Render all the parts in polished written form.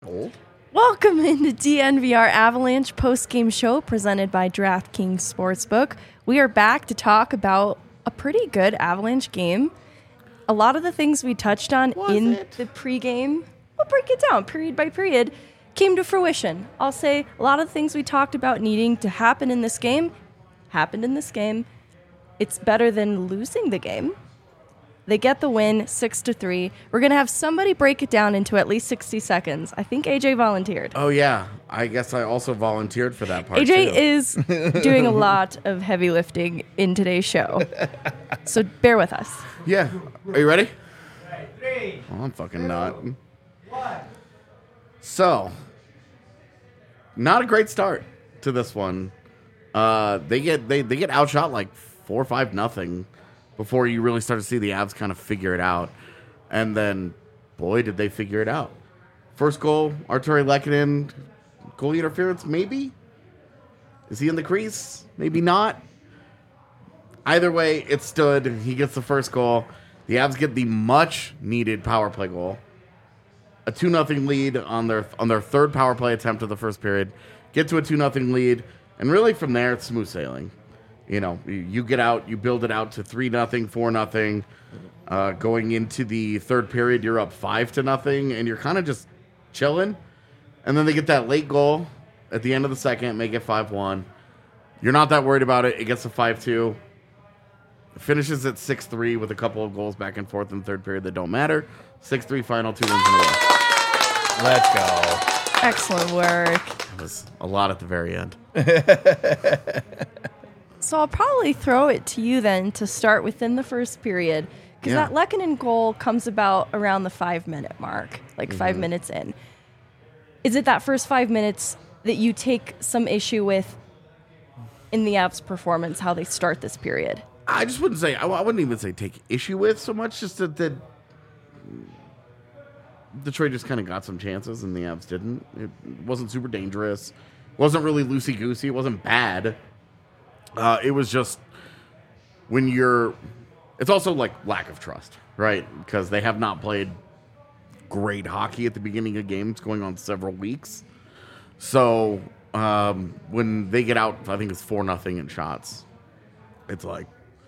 goal. Welcome into DNVR Avalanche post-game show presented by DraftKings Sportsbook. We are back to talk about a pretty good Avalanche game. A lot of the things we touched on the pregame, we'll break it down period by period, came to fruition. I'll say a lot of the things we talked about needing to happen in this game happened in this game. It's better than losing the game. They get the win 6-3. We're going to have somebody break it down into at least 60 seconds. I think AJ volunteered. Oh, yeah. I guess I also volunteered for that part, AJ too. is doing a lot of heavy lifting in today's show. So bear with us. Yeah. Are you ready? Right, 3, Oh, I'm fucking not. 1. So, not a great start to this one. They get outshot like 4-5-0 before you really start to see the Avs kind of figure it out. And then, boy, did they figure it out. First goal, Artturi Lehkonen, goalie interference, maybe? Is he in the crease? Maybe not. Either way, it stood. He gets the first goal. The Avs get the much-needed power play goal. A 2-0 lead on their third power play attempt of the first period. Get to a 2-0 lead. And really from there, it's smooth sailing. You know, you get out, you build it out to 3-0, 4-0. Going into the third period, you're up 5-0, and you're kind of just chilling. And then they get that late goal at the end of the second, make it 5-1. You're not that worried about it. It gets to 5-2. It finishes at 6-3 with a couple of goals back and forth in the third period that don't matter. 6-3 final, 2 wins in a row. Let's go. Excellent work. That was a lot at the very end. So I'll probably throw it to you then to start within the first period. Because that Lehkonen goal comes about around the 5-minute mark, like 5 minutes in. Is it that first 5 minutes that you take some issue with in the Avs' performance, how they start this period? I just wouldn't say, I wouldn't even say take issue with so much, just that Detroit just kind of got some chances and the Avs didn't. It wasn't super dangerous. It wasn't really loosey-goosey. It wasn't bad. It was just when it's also like lack of trust, right? Because they have not played great hockey at the beginning of games going on several weeks. So when they get out, I think it's 4-0 in shots. It's like,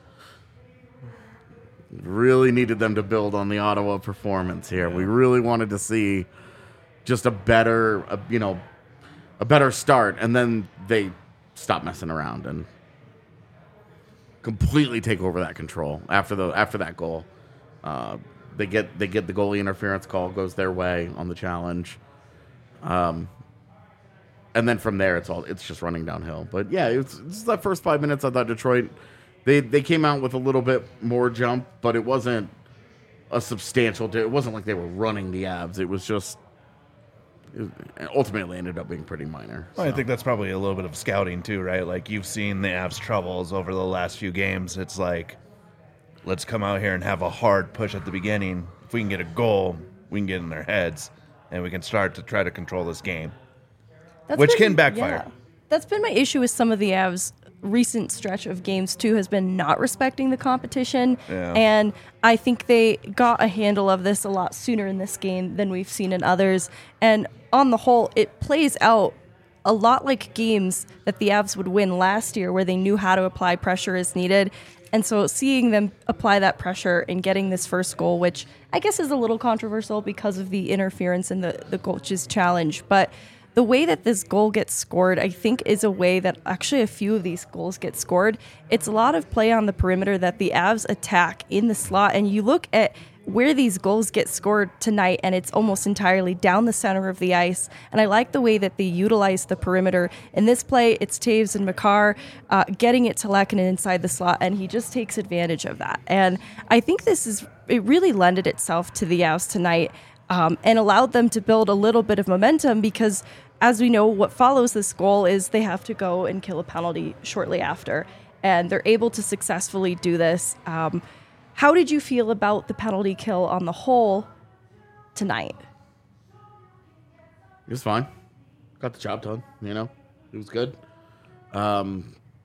really needed them to build on the Ottawa performance here. Yeah. We really wanted to see just a better start, and then they stop messing around and completely take over that control after that goal. They get the goalie interference call, goes their way on the challenge, and then from there it's just running downhill. But yeah, it's that first 5 minutes. I thought Detroit they came out with a little bit more jump, but it wasn't a substantial. It wasn't like they were running the Avs. It was just. It ultimately ended up being pretty minor. Well, I think that's probably a little bit of scouting too, right? Like you've seen the Avs' troubles over the last few games. It's like, let's come out here and have a hard push at the beginning. If we can get a goal, we can get in their heads, and we can start to try to control this game, which can backfire. Yeah. That's been my issue with some of the Avs' recent stretch of games too, has been not respecting the competition. Yeah. And I think they got a handle of this a lot sooner in this game than we've seen in others. And on the whole, it plays out a lot like games that the Avs would win last year where they knew how to apply pressure as needed. And so seeing them apply that pressure and getting this first goal, which I guess is a little controversial because of the interference in the coach's challenge, but the way that this goal gets scored, I think, is a way that actually a few of these goals get scored. It's a lot of play on the perimeter that the Avs attack in the slot. And you look at where these goals get scored tonight, and it's almost entirely down the center of the ice. And I like the way that they utilize the perimeter. In this play, it's Taves and Makar getting it to Lehkonen inside the slot, and he just takes advantage of that. And I think it really lended itself to the Avs tonight. And allowed them to build a little bit of momentum because, as we know, what follows this goal is they have to go and kill a penalty shortly after. And they're able to successfully do this. How did you feel about the penalty kill on the whole tonight? It was fine. Got the job done, It was good. Yeah,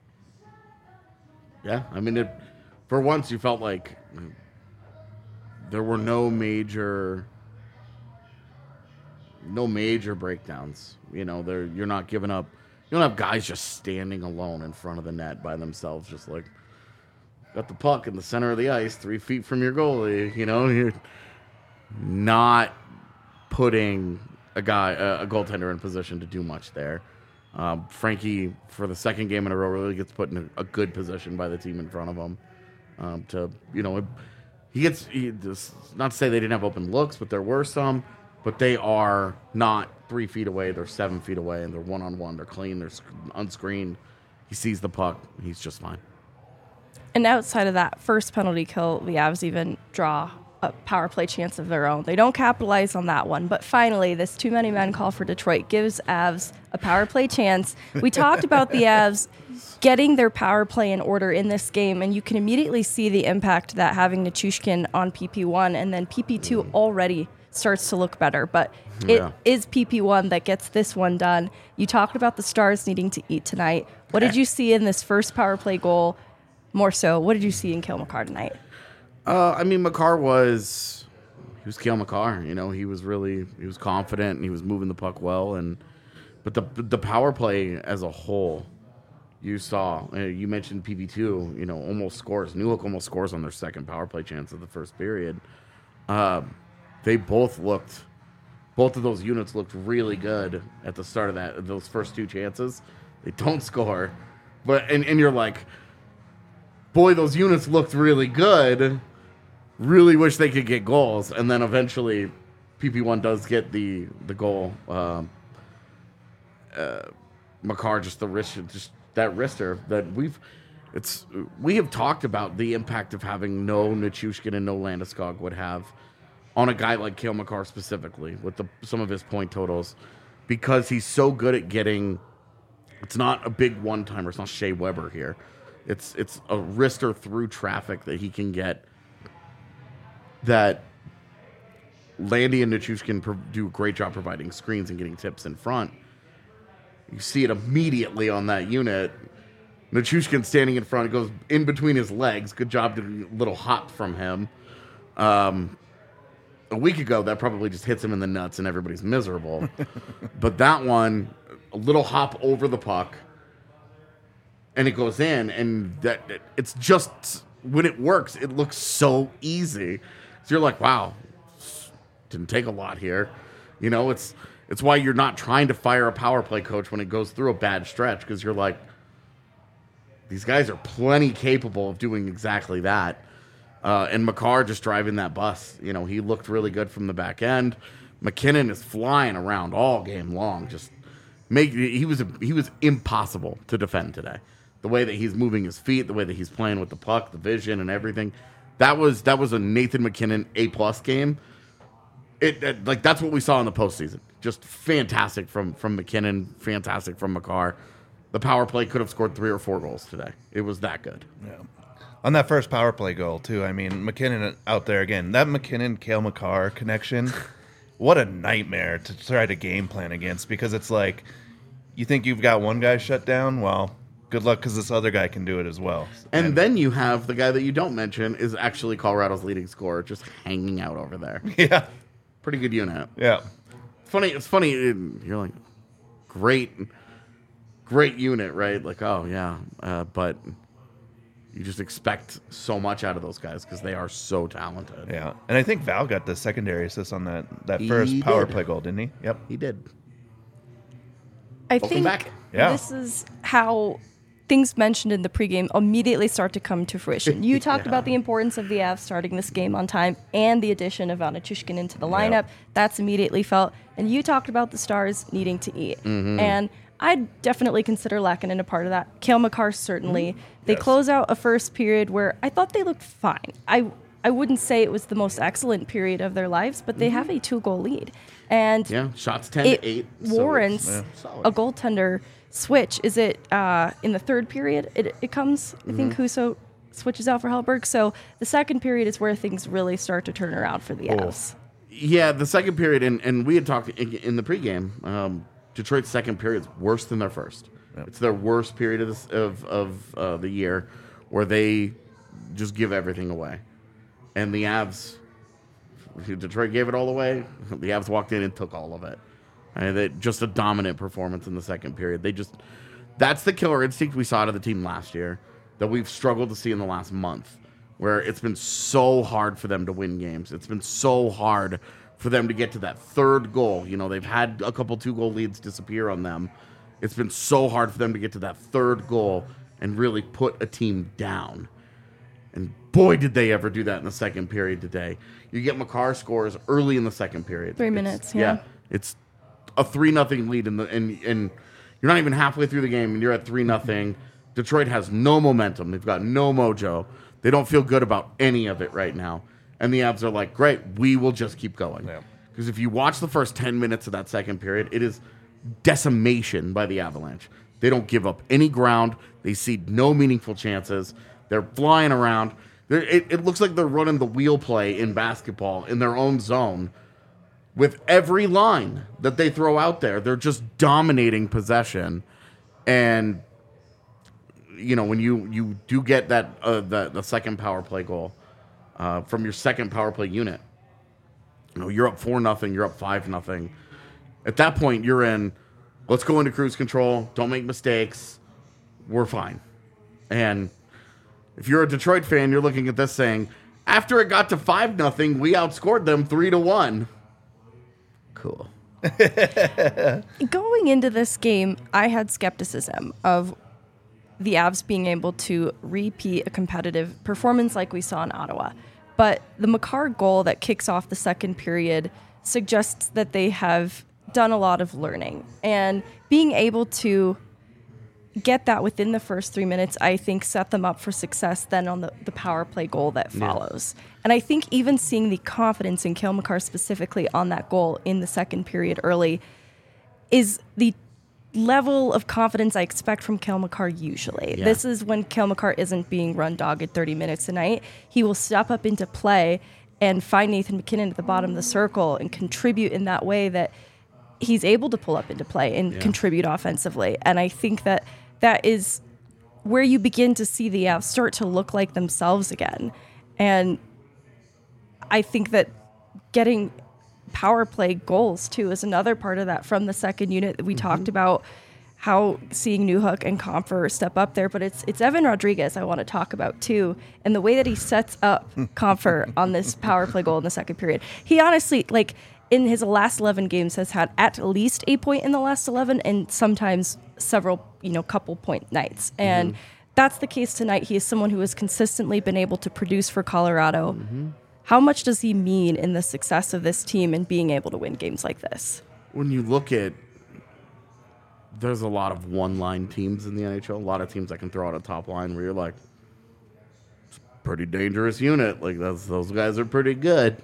I mean, for once you felt like there were no major no major breakdowns. You know, you're not giving up. You don't have guys just standing alone in front of the net by themselves, just like got the puck in the center of the ice, 3 feet from your goalie. You know, you're not putting a goaltender in position to do much there. Frankie, for the second game in a row, really gets put in a good position by the team in front of him. Not to say they didn't have open looks, but there were some. But they are not 3 feet away. They're 7 feet away, and they're one-on-one. They're clean. They're unscreened. He sees the puck. He's just fine. And outside of that first penalty kill, the Avs even draw a power play chance of their own. They don't capitalize on that one. But finally, this too many men call for Detroit gives Avs a power play chance. We talked about the Avs getting their power play in order in this game, and you can immediately see the impact that having Nichushkin on PP1 and then PP2 already starts to look better. But it is PP1 that gets this one done. You talked about the Stars needing to eat tonight. What did you see in this first power play goal? More so, what did you see in Cale Makar tonight? Makar was Cale Makar. You know, he was confident and he was moving the puck well. But the power play as a whole, you saw. You mentioned PP2. You know, almost scores. Newhook almost scores on their second power play chance of the first period. Both of those units looked really good at the start of those first two chances. They don't score, and you're like, boy, those units looked really good. Really wish they could get goals, and then eventually, PP1 does get the goal. Makar just that wrister that we have talked about the impact of having no Nichushkin and no Landeskog would have on a guy like Cale Makar specifically with some of his point totals, because he's so good at getting. It's not a big one-timer. It's not Shea Weber here. It's a wrister through traffic that he can get. That Landy and Nichushkin do a great job providing screens and getting tips in front. You see it immediately on that unit. Nichushkin standing in front, goes in between his legs. Good job, doing a little hop from him. A week ago, that probably just hits him in the nuts and everybody's miserable. But that one, a little hop over the puck, and it goes in, and it's just, when it works, it looks so easy. So you're like, wow, didn't take a lot here. You know, it's why you're not trying to fire a power play coach when it goes through a bad stretch, because you're like, these guys are plenty capable of doing exactly that. And Makar just driving that bus. You know, he looked really good from the back end. McKinnon is flying around all game long. He was impossible to defend today. The way that he's moving his feet, the way that he's playing with the puck, the vision and everything. That was a Nathan McKinnon A+ game. That's what we saw in the postseason. Just fantastic from McKinnon, fantastic from Makar. The power play could have scored 3 or 4 goals today. It was that good. Yeah. On that first power play goal, too, I mean, McKinnon out there again. That McKinnon-Cale Makar connection, what a nightmare to try to game plan against, because it's like, you think you've got one guy shut down? Well, good luck, because this other guy can do it as well. And then you have the guy that you don't mention is actually Colorado's leading scorer, just hanging out over there. Yeah. Pretty good unit. Yeah. It's funny. You're like, great unit, right? Like, oh, yeah. But you just expect so much out of those guys because they are so talented. Yeah. And I think Val got the secondary assist on that He first power did. play goal, didn't he? Yep. He did. I Welcome think back. Yeah. this is how things mentioned in the pregame immediately start to come to fruition. You talked about the importance of the Avs starting this game on time and the addition of Nichushkin into the lineup. Yep. That's immediately felt. And you talked about the Stars needing to eat. Mm-hmm. And I'd definitely consider Lehkonen a part of that. Cale Makar, certainly. They Yes. close out a first period where I thought they looked fine. I wouldn't say it was the most excellent period of their lives, but they have a 2-goal lead. And Yeah, shots 10-8. warrants solid. a goaltender switch. Is it in the third period? It comes, I think Husso switches out for Hellberg. So the second period is where things really start to turn around for the Avs. Yeah, the second period, and we had talked in the pregame, Detroit's second period is worse than their first. Yep. It's their worst period of the year, where they just give everything away. And the Avs, Detroit gave it all away. The Avs walked in and took all of it. Just a dominant performance in the second period. That's the killer instinct we saw out of the team last year that we've struggled to see in the last month, where it's been so hard for them to win games. It's been so hard for them to get to that third goal. They've had a couple 2-goal leads disappear on them. It's been so hard for them to get to that third goal and really put a team down. And boy, did they ever do that in the second period today. You get Makar scores early in the second period. 3 minutes, yeah. It's a 3-0 lead, and you're not even halfway through the game, and you're at 3-0. Detroit has no momentum. They've got no mojo. They don't feel good about any of it right now. And the Avs are like, great, we will just keep going. Because if you watch the first 10 minutes of that second period, it is decimation by the Avalanche. They don't give up any ground. They cede no meaningful chances. They're flying around. It looks like they're running the wheel play in basketball in their own zone. With every line that they throw out there, they're just dominating possession. And, when you do get that the second power play goal from your second power play unit, you're up 4-0, you're up 5-0. At that point, you're in, let's go into cruise control. Don't make mistakes. We're fine. And if you're a Detroit fan, you're looking at this saying, after it got to 5-0, we outscored them 3-1. Cool. Going into this game, I had skepticism of the Avs being able to repeat a competitive performance like we saw in Ottawa. But the Makar goal that kicks off the second period suggests that they have done a lot of learning. And being able to get that within the first 3 minutes, I think, set them up for success then on the power play goal that follows. And I think even seeing the confidence in Cale Makar specifically on that goal in the second period early is the level of confidence I expect from Cale Makar usually. Yeah. This is when Cale Makar isn't being run dogged 30 minutes a night. He will step up into play and find Nathan MacKinnon at the bottom of the circle and contribute in that way that he's able to pull up into play and contribute offensively. And I think that is where you begin to see the Avs start to look like themselves again. And I think that getting power play goals too is another part of that from the second unit that we talked about, how seeing Newhook and Compher step up there, but it's Evan Rodriguez I want to talk about too, and the way that he sets up Compher on this power play goal in the second period. He honestly, in his last 11 games, has had at least a point in the last 11 and sometimes several, couple point nights. And that's the case tonight. He is someone who has consistently been able to produce for Colorado. How much does he mean in the success of this team and being able to win games like this? When you look at, there's a lot of one-line teams in the NHL, a lot of teams that can throw out a top line where you're like, it's a pretty dangerous unit. Those guys are pretty good.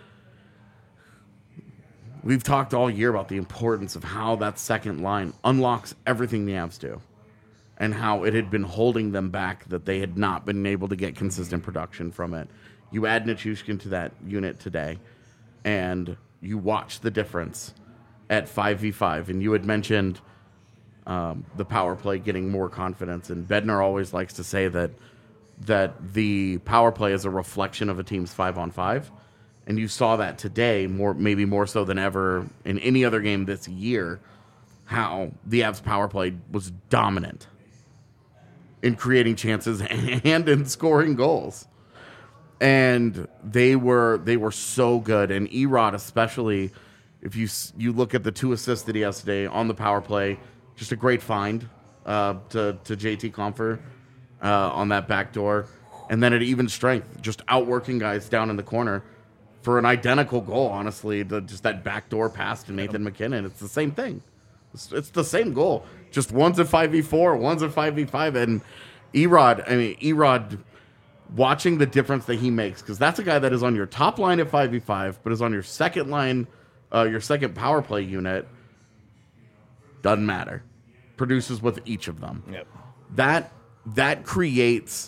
We've talked all year about the importance of how that second line unlocks everything the Avs do and how it had been holding them back, that they had not been able to get consistent production from it. You add Nichushkin to that unit today, and you watch the difference at 5v5. And you had mentioned the power play getting more confidence, and Bednar always likes to say that the power play is a reflection of a team's 5-on-5. And you saw that today, maybe more so than ever in any other game this year, how the Avs power play was dominant in creating chances and in scoring goals. And they were so good. And Erod, especially, if you look at the 2 assists that he has today on the power play, just a great find to JT Compher on that back door. And then at even strength, just outworking guys down in the corner for an identical goal, honestly, just that backdoor pass to Nathan MacKinnon. It's the same thing. It's the same goal. Just one's at 5v4, one's at 5v5. And Erod, watching the difference that he makes, because that's a guy that is on your top line at 5v5, but is on your second line, your second power play unit. Doesn't matter. Produces with each of them. Yep. That creates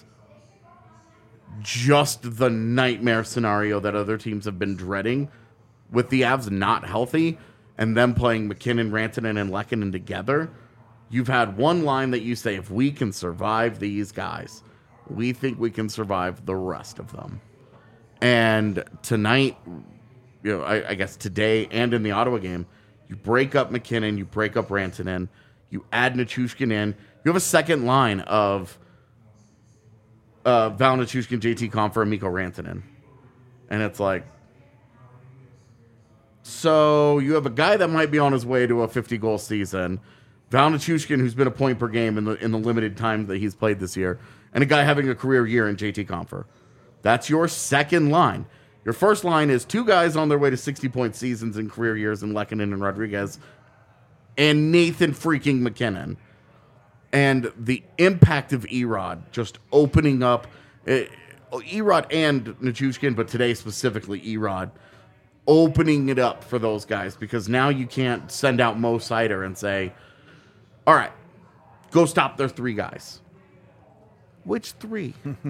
just the nightmare scenario that other teams have been dreading, with the Avs not healthy and them playing MacKinnon, Rantanen, and Lehkonen together. You've had one line that you say, if we can survive these guys, we think we can survive the rest of them. And tonight, I guess today and in the Ottawa game, You break up McKinnon. You break up Rantanen. You add Nichushkin in. You have a second line of Val Nichushkin, JT Compher, and Mikko Rantanen. And it's like, so you have a guy that might be on his way to a 50-goal season, Val Nichushkin, who's been a point per game in the limited time that he's played this year, and a guy having a career year in JT Compher. That's your second line. Your first line is two guys on their way to 60-point seasons in career years in Lehkonen and Rodriguez, and Nathan freaking McKinnon. And the impact of Erod just opening up, Erod and Nichushkin, but today specifically Erod, opening it up for those guys, because now you can't send out Mo Seider and say, all right, go stop their three guys. Which three?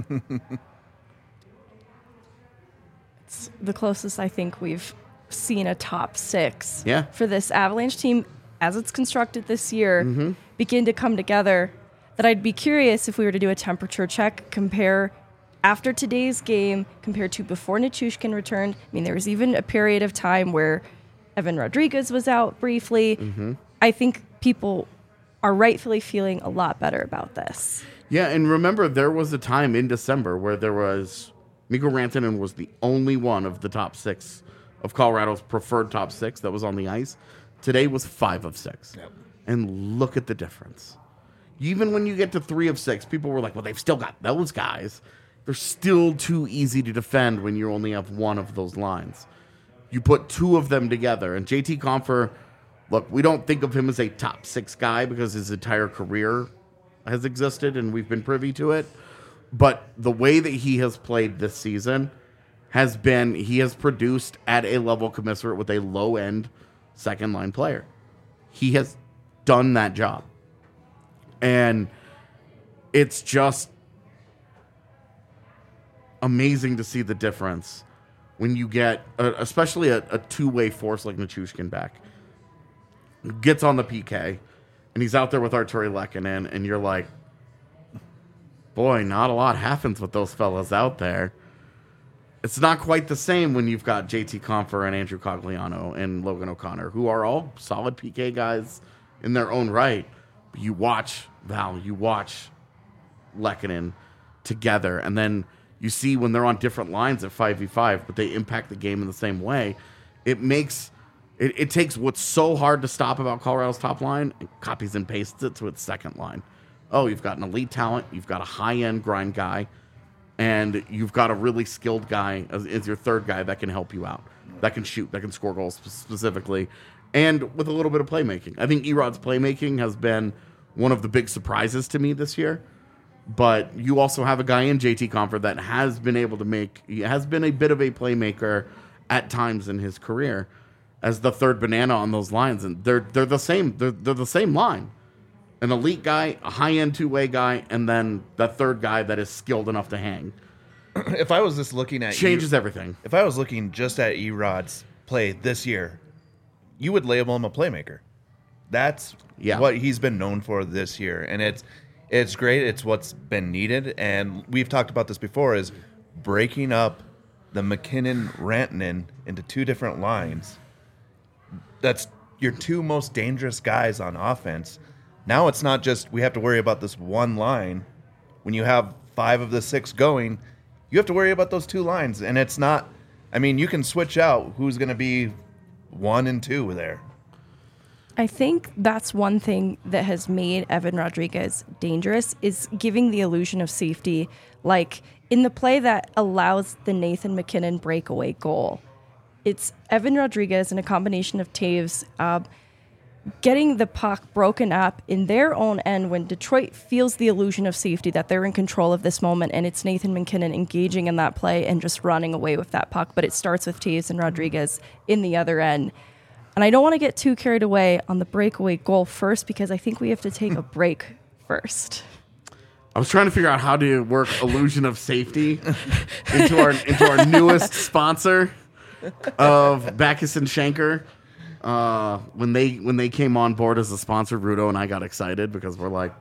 It's the closest I think we've seen a top six Yeah. for this Avalanche team as it's constructed this year begin to come together, that I'd be curious if we were to do a temperature check, compare after today's game compared to before Nichushkin returned. I mean, there was even a period of time where Evan Rodriguez was out briefly. I think people are rightfully feeling a lot better about this. Yeah, and remember, there was a time in December where there was Mikko Rantanen was the only one of the top six of Colorado's preferred top six that was on the ice. Today was 5 of 6. Yep. And look at the difference. Even when you get to 3 of 6, people were like, well, they've still got those guys. They're still too easy to defend when you only have one of those lines. You put 2 of them together. And JT Compher, look, we don't think of him as a top 6 guy because his entire career has existed and we've been privy to it. But the way that he has played this season has been, he has produced at a level commensurate with a low-end second-line player. He has done that job. And it's just amazing to see the difference when you get, especially a two-way force like Nichushkin back. Gets on the PK, and he's out there with Artturi Lehkonen, and you're like, boy, not a lot happens with those fellas out there. It's not quite the same when you've got JT Compher and Andrew Cogliano and Logan O'Connor, who are all solid PK guys in their own right. But you watch Val, you watch Lehkonen together, and then you see when they're on different lines at 5v5, but they impact the game in the same way. It makes it takes what's so hard to stop about Colorado's top line and copies and pastes it to its second line. Oh, you've got an elite talent, you've got a high-end grind guy, and you've got a really skilled guy as your third guy that can help you out, that can shoot, that can score goals specifically, and with a little bit of playmaking. I think Erod's playmaking has been one of the big surprises to me this year. But you also have a guy in JT Compher that has been able to he has been a bit of a playmaker at times in his career as the third banana on those lines. And they're the same. They're the same line. An elite guy, a high-end two-way guy, and then that third guy that is skilled enough to hang. If I was just looking at Changes everything. If I was looking just at Erod's play this year, you would label him a playmaker. That's what he's been known for this year. And it's great. It's what's been needed. And we've talked about this before, is breaking up the McKinnon-Rantanen into 2 different lines. That's your 2 most dangerous guys on offense. Now it's not just we have to worry about this one line. When you have 5 of the 6 going, you have to worry about those 2 lines. And it's not, I mean, you can switch out who's going to be 1 and 2 there. I think that's one thing that has made Evan Rodriguez dangerous, is giving the illusion of safety. Like in the play that allows the Nathan McKinnon breakaway goal, it's Evan Rodriguez and a combination of Taves getting the puck broken up in their own end when Detroit feels the illusion of safety that they're in control of this moment, and it's Nathan McKinnon engaging in that play and just running away with that puck. But it starts with Taves and Rodriguez in the other end. And I don't want to get too carried away on the breakaway goal first, because I think we have to take a break first. I was trying to figure out how to work illusion of safety into our newest sponsor of Backus and Schenker. When they came on board as a sponsor, Rudo and I got excited because we're like,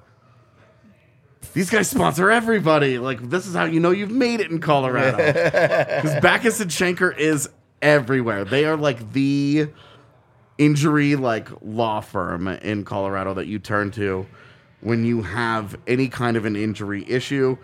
these guys sponsor everybody. Like, this is how you know you've made it in Colorado. Because Backus and Schenker is everywhere. They are like the injury like law firm in Colorado that you turn to when you have any kind of an injury issue.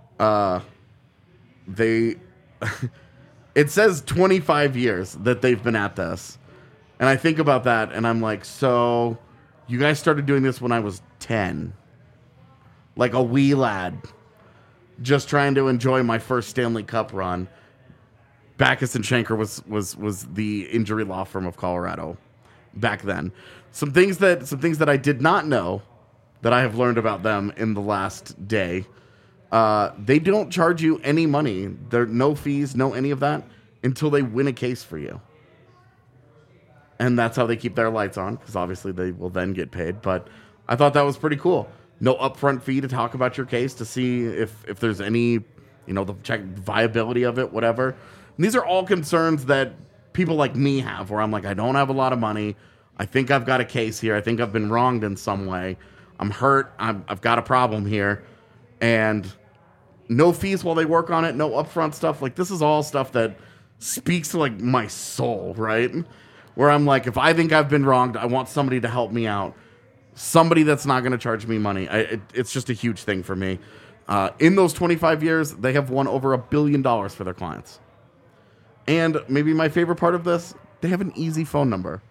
They it says 25 years that they've been at this. And I think about that and I'm like, so you guys started doing this when I was 10. Like a wee lad. Just trying to enjoy my first Stanley Cup run. Backus and Schenker was the injury law firm of Colorado back then. Some things that I did not know that I have learned about them in the last day. They don't charge you any money. There are no fees, no any of that until they win a case for you. And that's how they keep their lights on, because obviously they will then get paid. But I thought that was pretty cool. No upfront fee to talk about your case to see if there's any, the check viability of it, whatever. And these are all concerns that people like me have, where I'm like, I don't have a lot of money. I think I've got a case here. I think I've been wronged in some way. I'm hurt. I've got a problem here. And no fees while they work on it. No upfront stuff. Like, this is all stuff that speaks to, like, my soul, right? Where I'm like, if I think I've been wronged, I want somebody to help me out. Somebody that's not going to charge me money. It's just a huge thing for me. In those 25 years, they have won over $1 billion for their clients. And maybe my favorite part of this, they have an easy phone number.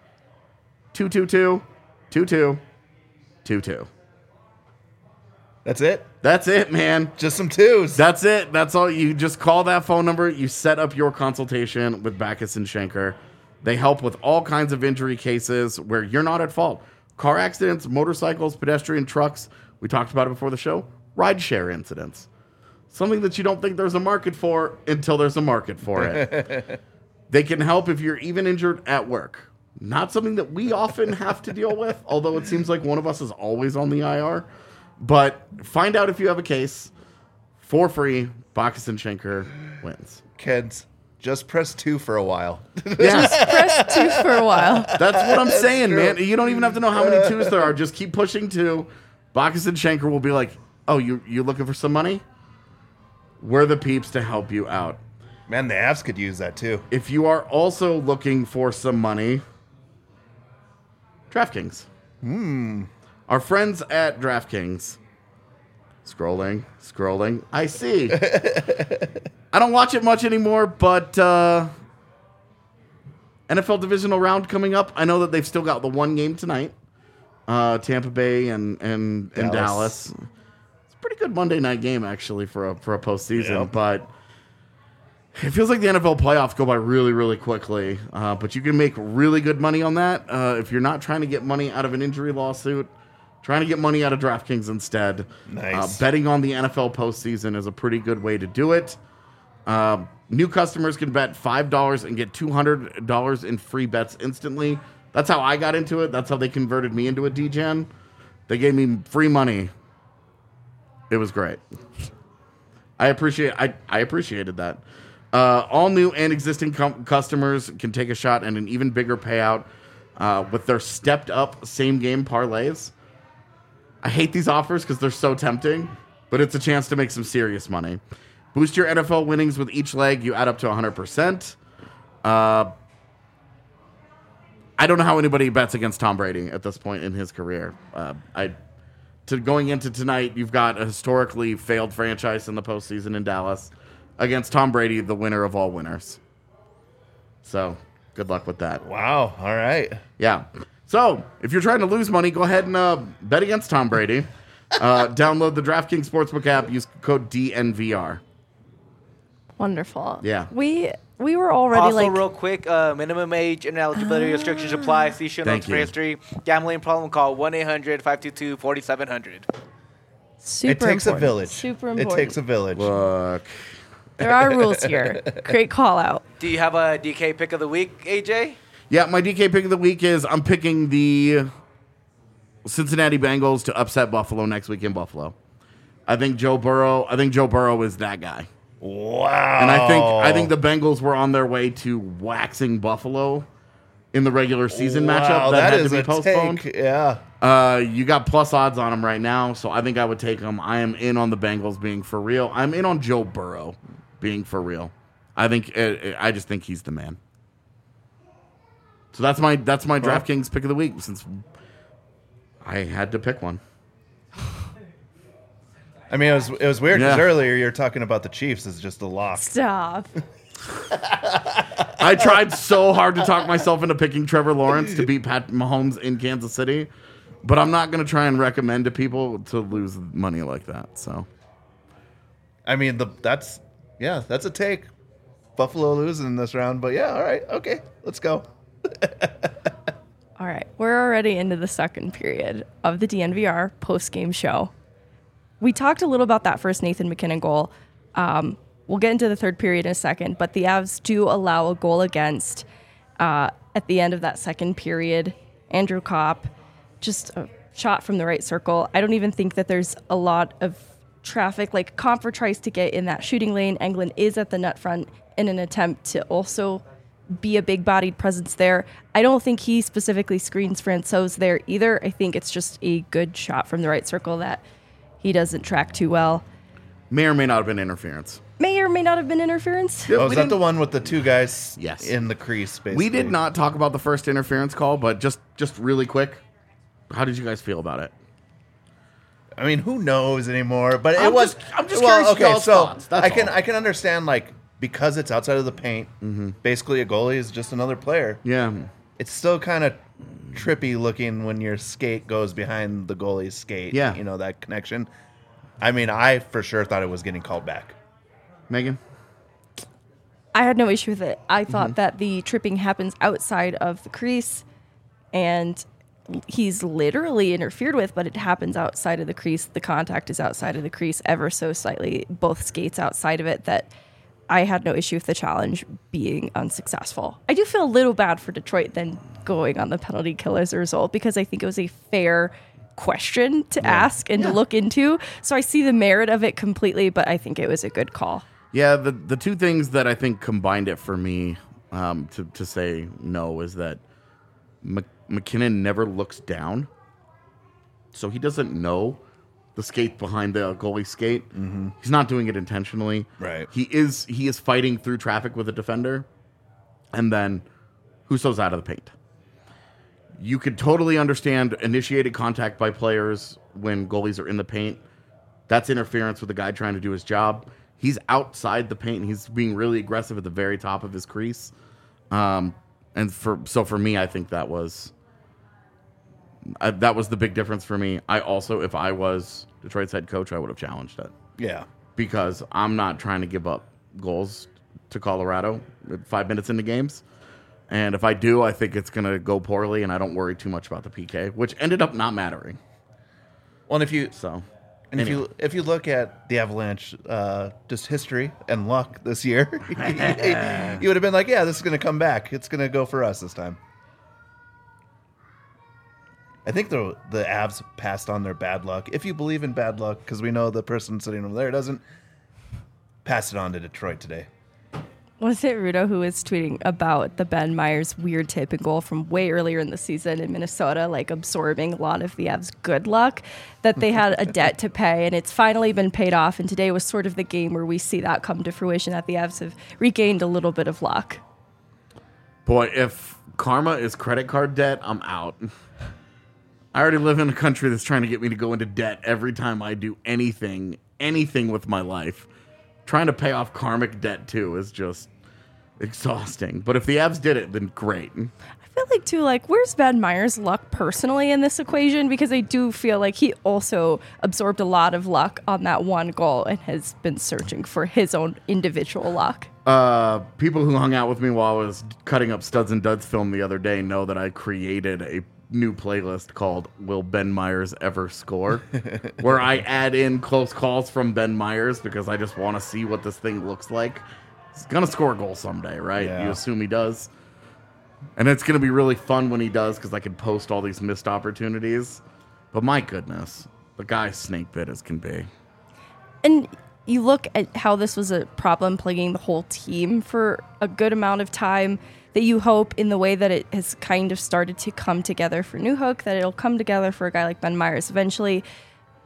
222-2222. That's it? That's it, man. Just some twos. That's it. That's all. You just call that phone number. You set up your consultation with Backus and Schenker. They help with all kinds of injury cases where you're not at fault. Car accidents, motorcycles, pedestrian trucks. We talked about it before the show. Rideshare incidents. Something that you don't think there's a market for until there's a market for it. They can help if you're even injured at work. Not something that we often have to deal with, although it seems like one of us is always on the IR. But find out if you have a case for free. Backus and Schenker wins. Kids, just press 2 for a while. Yes. Press 2 for a while. That's what I'm saying, man. You don't even have to know how many 2s there are. Just keep pushing 2. Backus and Schenker will be like, oh, you looking for some money? We're the peeps to help you out. Man, the Avs could use that too. If you are also looking for some money, DraftKings. Our friends at DraftKings. Scrolling. I see. I don't watch it much anymore, but NFL divisional round coming up. I know that they've still got the one game tonight. Tampa Bay and Dallas. It's a pretty good Monday night game, actually, for a postseason. But it feels like the NFL playoffs go by really, really quickly. But you can make really good money on that if you're not trying to get money out of an injury lawsuit. Trying to get money out of DraftKings instead. Nice. Betting on the NFL postseason is a pretty good way to do it. New customers can bet $5 and get $200 in free bets instantly. That's how I got into it. That's how they converted me into a DGen. They gave me free money. It was great. I appreciated that. All new and existing customers can take a shot at an even bigger payout with their stepped up same game parlays. I hate these offers because they're so tempting, but it's a chance to make some serious money. Boost your NFL winnings with each leg. You add up to 100%. I don't know how anybody bets against Tom Brady at this point in his career. Going into tonight, you've got a historically failed franchise in the postseason in Dallas against Tom Brady, the winner of all winners. So, good luck with that. Wow. All right. Yeah. So, if you're trying to lose money, go ahead and bet against Tom Brady. Download the DraftKings Sportsbook app. Use code DNVR. Wonderful. Yeah. We were already Also, like... real quick, minimum age and eligibility restrictions apply. See show notes for history. Gambling problem, call 1-800-522-4700. Super It takes a important. village. Super important. It takes a village. Look. There are rules here. Great call out. Do you have a DK pick of the week, AJ? Yeah, my DK pick of the week is I'm picking the Cincinnati Bengals to upset Buffalo next week in Buffalo. I think Joe Burrow is that guy. Wow. And I think the Bengals were on their way to waxing Buffalo in the regular season matchup that had to be postponed. Take. Yeah. You got plus odds on them right now, so I think I would take them. I am in on the Bengals being for real. I'm in on Joe Burrow being for real. I just think he's the man. So that's my DraftKings pick of the week since I had to pick one. I mean, it was weird because Yeah. earlier you were talking about the Chiefs as just a lock. Stop. I tried so hard to talk myself into picking Trevor Lawrence to beat Pat Mahomes in Kansas City, but I'm not going to try and recommend to people to lose money like that. So, I mean, that's a take. Buffalo losing in this round, but yeah, all right, okay, let's go. All right, we're already into the second period of the DNVR post-game show. We talked a little about that first Nathan McKinnon goal. We'll get into the third period in a second, but the Avs do allow a goal against at the end of that second period. Andrew Kopp, just a shot from the right circle. I don't even think that there's a lot of traffic. Like, Comfort tries to get in that shooting lane. Englund is at the net front in an attempt to also be a big-bodied presence there. I don't think he specifically screens Francouz there either. I think it's just a good shot from the right circle that he doesn't track too well. may or may not have been interference. May or may not have been interference. Oh, is that the one with the two guys Yes. in the crease, basically? We did not talk about the first interference call, but just really quick, how did you guys feel about it? I mean, who knows anymore? But I'm it was. just curious okay, y'all's so thoughts, that's all. I can understand, like, because it's outside of the paint. Basically, a goalie is just another player. Yeah. It's still kind of trippy looking when your skate goes behind the goalie's skate. Yeah. You know, that connection. I mean, I for sure thought it was getting called back. Megan? I had no issue with it. I thought that the tripping happens outside of the crease, and he's literally interfered with, but it happens outside of the crease. The contact is outside of the crease ever so slightly, both skates outside of it, that I had no issue with the challenge being unsuccessful. I do feel a little bad for Detroit then going on the penalty kill as a result, because I think it was a fair question to ask and to look into. So I see the merit of it completely, but I think it was a good call. Yeah, the two things that I think combined it for me to say no is that McKinnon never looks down, so he doesn't know the skate behind the goalie skate. He's not doing it intentionally. Right. He is fighting through traffic with a defender, and then Husso's out of the paint. You could totally understand initiated contact by players when goalies are in the paint. That's interference with the guy trying to do his job. He's outside the paint. He's being really aggressive at the very top of his crease. For me, I think that was the big difference for me. I also, if I was Detroit's head coach, I would have challenged it. Yeah. Because I'm not trying to give up goals to Colorado 5 minutes into games. And if I do, I think it's going to go poorly, and I don't worry too much about the PK, which ended up not mattering. Well, and if you Anyway. if you look at the Avalanche, just history and luck this year, you would have been like, yeah, this is going to come back. It's going to go for us this time. I think the Avs passed on their bad luck. If you believe in bad luck, because we know the person sitting over there doesn't, pass it on to Detroit today. Was it Rudo who was tweeting about the Ben Myers weird tip and goal from way earlier in the season in Minnesota, like absorbing a lot of the Avs' good luck, that they had a debt to pay, and it's finally been paid off, and today was sort of the game where we see that come to fruition, that the Avs have regained a little bit of luck. Boy, if karma is credit card debt, I'm out. I already live in a country that's trying to get me to go into debt every time I do anything with my life. Trying to pay off karmic debt, too, is just exhausting. But if the Avs did it, then great. I feel like, too, like, where's Ben Myers' luck personally in this equation? Because I do feel like he also absorbed a lot of luck on that one goal and has been searching for his own individual luck. People who hung out with me while I was cutting up Studs and Duds film the other day know that I created a new playlist called Will Ben Myers Ever Score? Where I add in close calls from Ben Myers because I just want to see what this thing looks like. He's going to score a goal someday, right? Yeah. You assume he does. And it's going to be really fun when he does because I can post all these missed opportunities. But my goodness, the guy's snake bit as can be. And you look at how this was a problem plaguing the whole team for a good amount of time, that you hope in the way that it has kind of started to come together for Newhook, that it'll come together for a guy like Ben Myers eventually.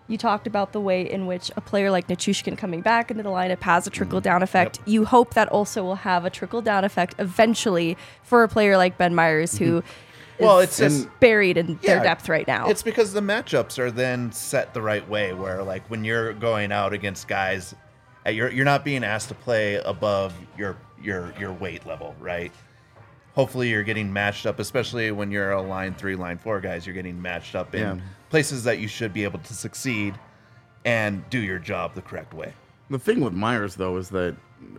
You talked about the way in which a player like Nichushkin coming back into the lineup has a trickle-down effect. Yep. You hope that also will have a trickle-down effect eventually for a player like Ben Meyers, who is just buried in their depth right now. It's because the matchups are then set the right way, where like when you're going out against guys, you're not being asked to play above your weight level, right? Hopefully you're getting matched up, especially when you're a line 3, line 4 guys. You're getting matched up in places that you should be able to succeed and do your job the correct way. The thing with Meyers, though, is that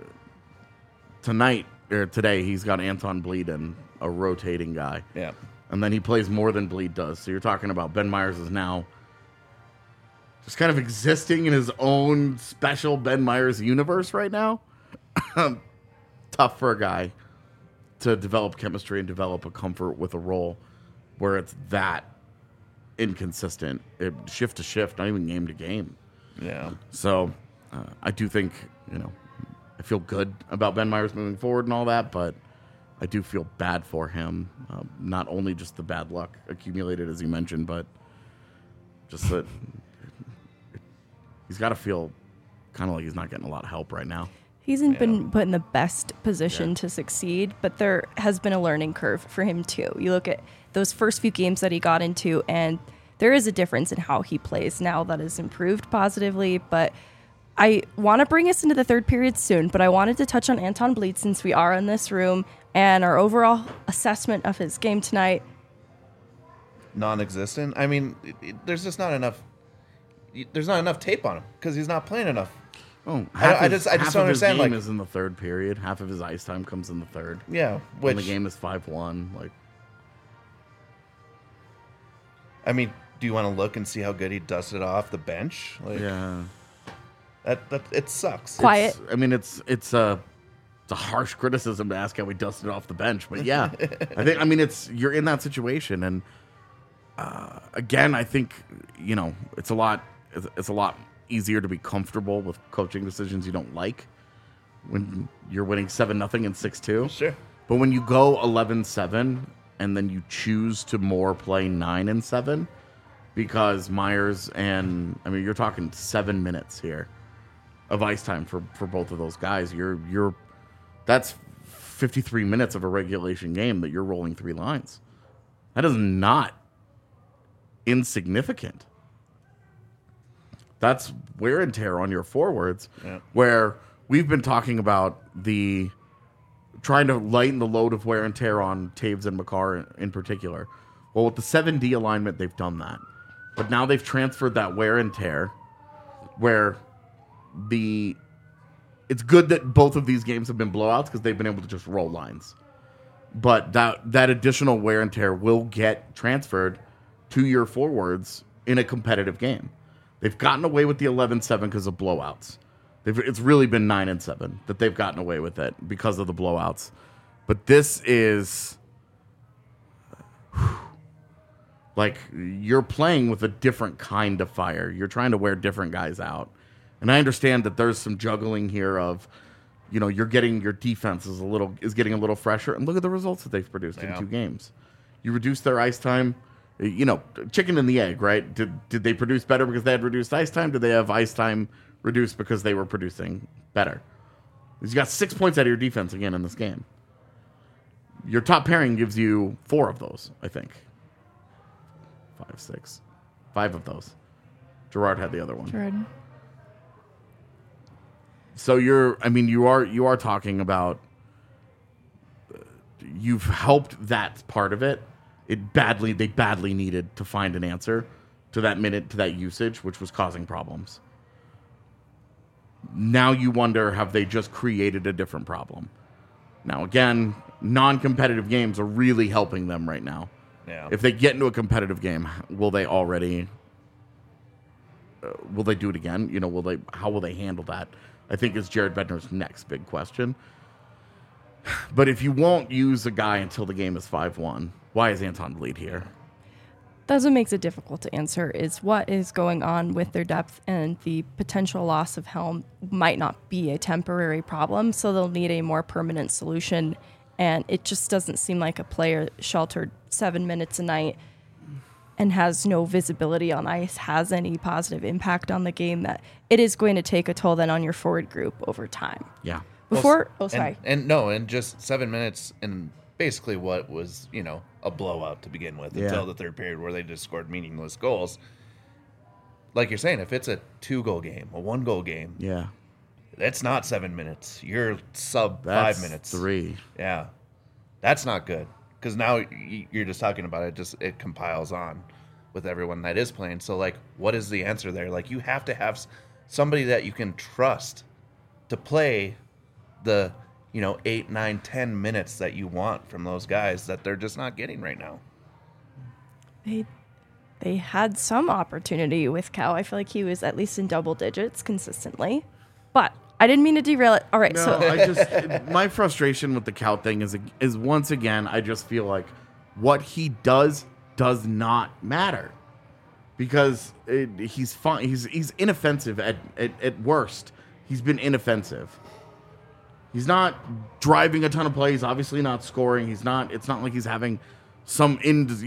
today he's got Anton Bleed and a rotating guy. Yeah. And then he plays more than Bleed does. So you're talking about Ben Meyers is now just kind of existing in his own special Ben Meyers universe right now. Tough for a guy to develop chemistry and develop a comfort with a role where it's that inconsistent, shift to shift, not even game to game. Yeah. So I do think, I feel good about Ben Meyers moving forward and all that, but I do feel bad for him. Not only just the bad luck accumulated, as you mentioned, but just that he's got to feel kind of like he's not getting a lot of help right now. He hasn't been put in the best position to succeed, but there has been a learning curve for him too. You look at those first few games that he got into, and there is a difference in how he plays now that has improved positively. But I want to bring us into the third period soon, but I wanted to touch on Anton Bleed since we are in this room and our overall assessment of his game tonight. Non-existent. I mean, there's just not enough. There's not enough tape on him because he's not playing enough. Oh, I just don't understand. His game like, is in the third period. Half of his ice time comes in the third. Yeah, when the game is 5-1. Like, I mean, do you want to look and see how good he dusted off the bench? Like, yeah, that it sucks. Quiet. It's a harsh criticism to ask how we dusted off the bench, but yeah, you're in that situation, and again, I think it's a lot easier to be comfortable with coaching decisions you don't like when you're winning 7-0 and 6-2. Sure. But when you go 11-7 and then you choose to more play 9-7 because Meyers you're talking 7 minutes here of ice time for both of those guys. That's 53 minutes of a regulation game that you're rolling 3 lines. That is not insignificant. That's wear and tear on your forwards, where we've been talking about trying to lighten the load of wear and tear on Taves and Makar in particular. Well, with the 7D alignment, they've done that. But now they've transferred that wear and tear where it's good that both of these games have been blowouts because they've been able to just roll lines. But that additional wear and tear will get transferred to your forwards in a competitive game. They've gotten away with the 11-7 because of blowouts. It's really been 9-7 that they've gotten away with it because of the blowouts. But this is like you're playing with a different kind of fire. You're trying to wear different guys out. And I understand that there's some juggling here of, you're getting your defense is getting a little fresher. And look at the results that they've produced in 2 games. You reduce their ice time. Chicken and the egg, right? Did they produce better because they had reduced ice time? Did they have ice time reduced because they were producing better? Because you got 6 points out of your defense again in this game. Your top pairing gives you 4 of those, I think. 5, 6. 5 of those. Gerard had the other one. Gerard. So you are talking about you've helped that part of it. They badly needed to find an answer to that usage, which was causing problems. Now you wonder, have they just created a different problem? Now, again, non-competitive games are really helping them right now. Yeah. If they get into a competitive game, will they do it again? How will they handle that? I think is Jared Bednar's next big question. But if you won't use a guy until the game is 5-1, why is Anton Bleed here? That's what makes it difficult to answer, is what is going on with their depth, and the potential loss of Helm might not be a temporary problem, so they'll need a more permanent solution. And it just doesn't seem like a player sheltered 7 minutes a night and has no visibility on ice has any positive impact on the game, that it is going to take a toll then on your forward group over time. Yeah. And just 7 minutes and basically what was, a blowout to begin with until the third period where they just scored meaningless goals. Like you're saying, if it's a 2-goal game, a 1-goal game, Yeah. that's not 7 minutes. You're sub That's 5 minutes. 3. Yeah. That's not good. Because now you're just talking about it, it compiles on with everyone that is playing. So, like, what is the answer there? Like, you have to have somebody that you can trust to play the, 8, 9, 10 minutes that you want from those guys that they're just not getting right now. They had some opportunity with Cal. I feel like he was at least in double digits consistently. But I didn't mean to derail it. All right, No, so I just my frustration with the Kaut thing is once again I just feel like what he does not matter because he's fine. He's inoffensive at worst. He's been inoffensive. He's not driving a ton of plays. Obviously, not scoring. He's not. It's not like he's having some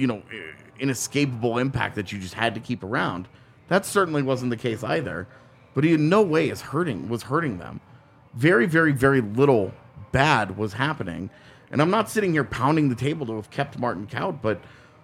inescapable impact that you just had to keep around. That certainly wasn't the case either. But he in no way was hurting them. Very, very, very little bad was happening. And I'm not sitting here pounding the table to have kept Martin Kaut, but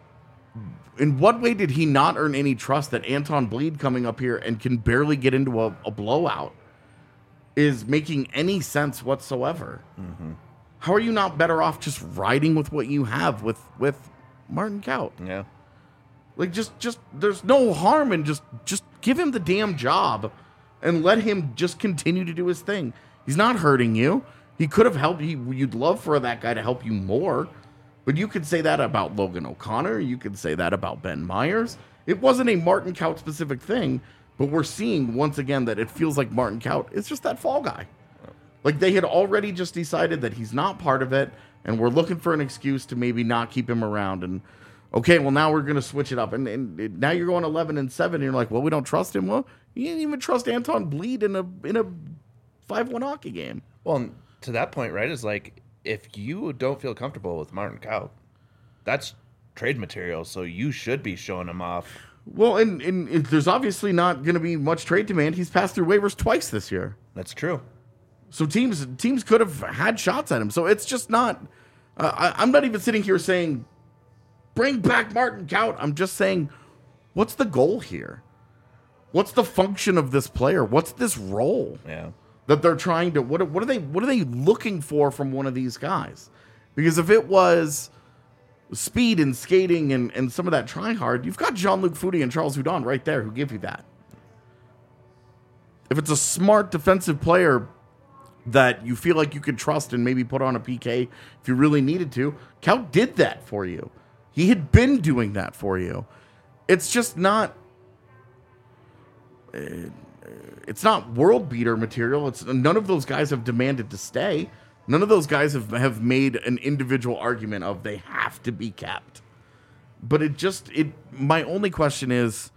in what way did he not earn any trust that Anton Bleed coming up here and can barely get into a blowout is making any sense whatsoever? Mm-hmm. How are you not better off just riding with what you have with Martin Kaut? Yeah. Like, just there's no harm in just give him the damn job and let him just continue to do his thing. He's not hurting you. He could have helped you. You'd love for that guy to help you more. But you could say that about Logan O'Connor. You could say that about Ben Myers. It wasn't a Martin Kaut specific thing, but we're seeing once again that it feels like Martin Kaut is just that fall guy. Like they had already just decided that he's not part of it, and we're looking for an excuse to maybe not keep him around. And okay, well now we're going to switch it up. And now you're going 11-7, and you're like, well, we don't trust him. Well, you didn't even trust Anton Bleed in a 5-1 hockey game. Well, to that point, right, is like, if you don't feel comfortable with Martin Kaut, that's trade material, so you should be showing him off. Well, and there's obviously not going to be much trade demand. He's passed through waivers twice this year. That's true. So teams could have had shots at him. So it's just not... I'm not even sitting here saying, bring back Martin Kaut. I'm just saying, what's the goal here? What's the function of this player? What's this role? Yeah. That they're trying to... What are they looking for from one of these guys? Because if it was speed and skating and some of that trying hard, you've got Jean-Luc Foudy and Charles Hudon right there who give you that. If it's a smart defensive player that you feel like you could trust and maybe put on a PK if you really needed to, Kaut did that for you. He had been doing that for you. It's just not... It's not world beater material. None of those guys have demanded to stay. None of those guys have made an individual argument of they have to be kept. But my only question is,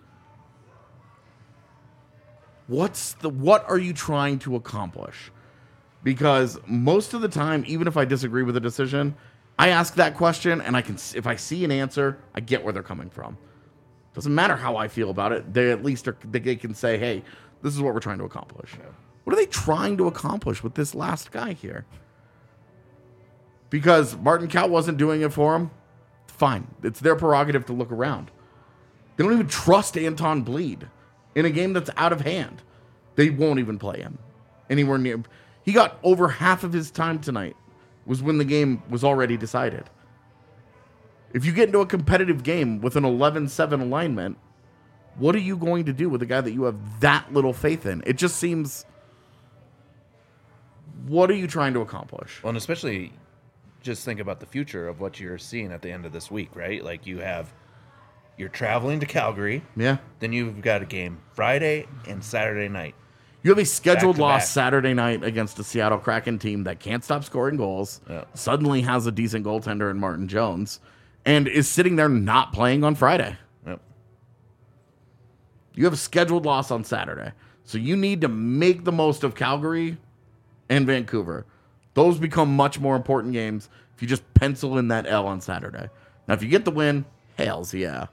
what are you trying to accomplish? Because most of the time, even if I disagree with a decision, I ask that question, and if I see an answer, I get where they're coming from. Doesn't matter how I feel about it. They at least they can say, "Hey, this is what we're trying to accomplish." Yeah. What are they trying to accomplish with this last guy here? Because Martin Kaut wasn't doing it for him, fine. It's their prerogative to look around. They don't even trust Anton Bleed in a game that's out of hand. They won't even play him anywhere near. He got over half of his time tonight was when the game was already decided. If you get into a competitive game with an 11-7 alignment, what are you going to do with a guy that you have that little faith in? It just seems... What are you trying to accomplish? Well, and especially just think about the future of what you're seeing at the end of this week, right? Like you're traveling to Calgary. Yeah. Then you've got a game Friday and Saturday night. You have a scheduled loss Saturday night against a Seattle Kraken team that can't stop scoring goals, suddenly has a decent goaltender in Martin Jones, and is sitting there not playing on Friday. Yep. You have a scheduled loss on Saturday. So you need to make the most of Calgary and Vancouver. Those become much more important games if you just pencil in that L on Saturday. Now, if you get the win, hells yeah.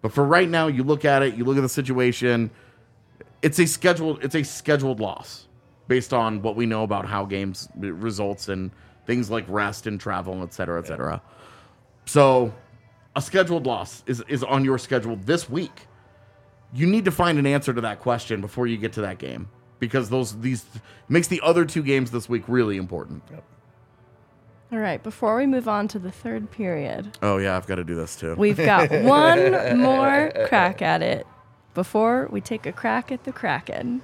But for right now, you look at it, you look at the situation. It's a scheduled loss based on what we know about how games results in things like rest and travel, et cetera, et cetera. So a scheduled loss is on your schedule this week. You need to find an answer to that question before you get to that game, because these makes the other 2 games this week really important. Yep. All right, before we move on to the third period. Oh, yeah, I've got to do this too. We've got one more crack at it before we take a crack at the Kraken.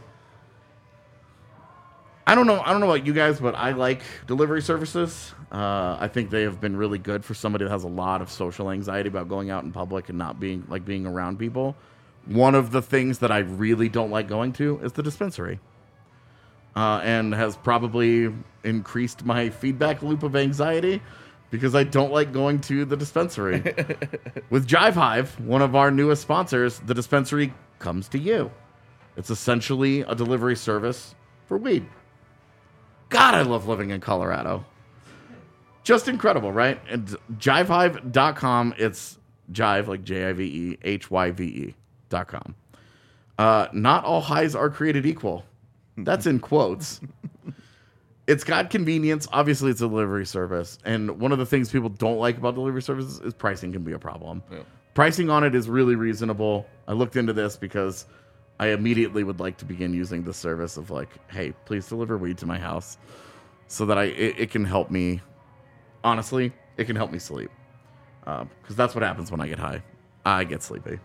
I don't know about you guys, but I like delivery services. I think they have been really good for somebody that has a lot of social anxiety about going out in public and not being around people. One of the things that I really don't like going to is the dispensary. And has probably increased my feedback loop of anxiety because I don't like going to the dispensary. With Jive Hive, one of our newest sponsors, the dispensary comes to you. It's essentially a delivery service for weed. God, I love living in Colorado. Just incredible, right? And jivehive.com, it's Jive, like Jive, HYVE.com. Not all highs are created equal. That's in quotes. It's got convenience. Obviously, it's a delivery service. And one of the things people don't like about delivery services is pricing can be a problem. Yeah. Pricing on it is really reasonable. I looked into this because I immediately would like to begin using the service of like, hey, please deliver weed to my house so that it can help me. Honestly, it can help me sleep. Because that's what happens when I get high. I get sleepy.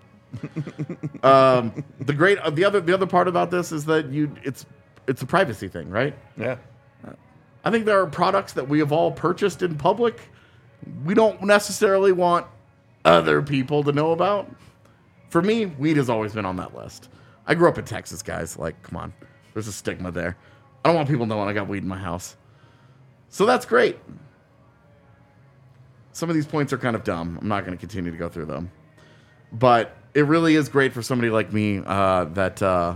The other part about this is that it's a privacy thing, right? Yeah. I think there are products that we have all purchased in public we don't necessarily want other people to know about. For me, weed has always been on that list. I grew up in Texas, guys. Like, come on. There's a stigma there. I don't want people knowing I got weed in my house. So that's great. Some of these points are kind of dumb. I'm not going to continue to go through them. But it really is great for somebody like me that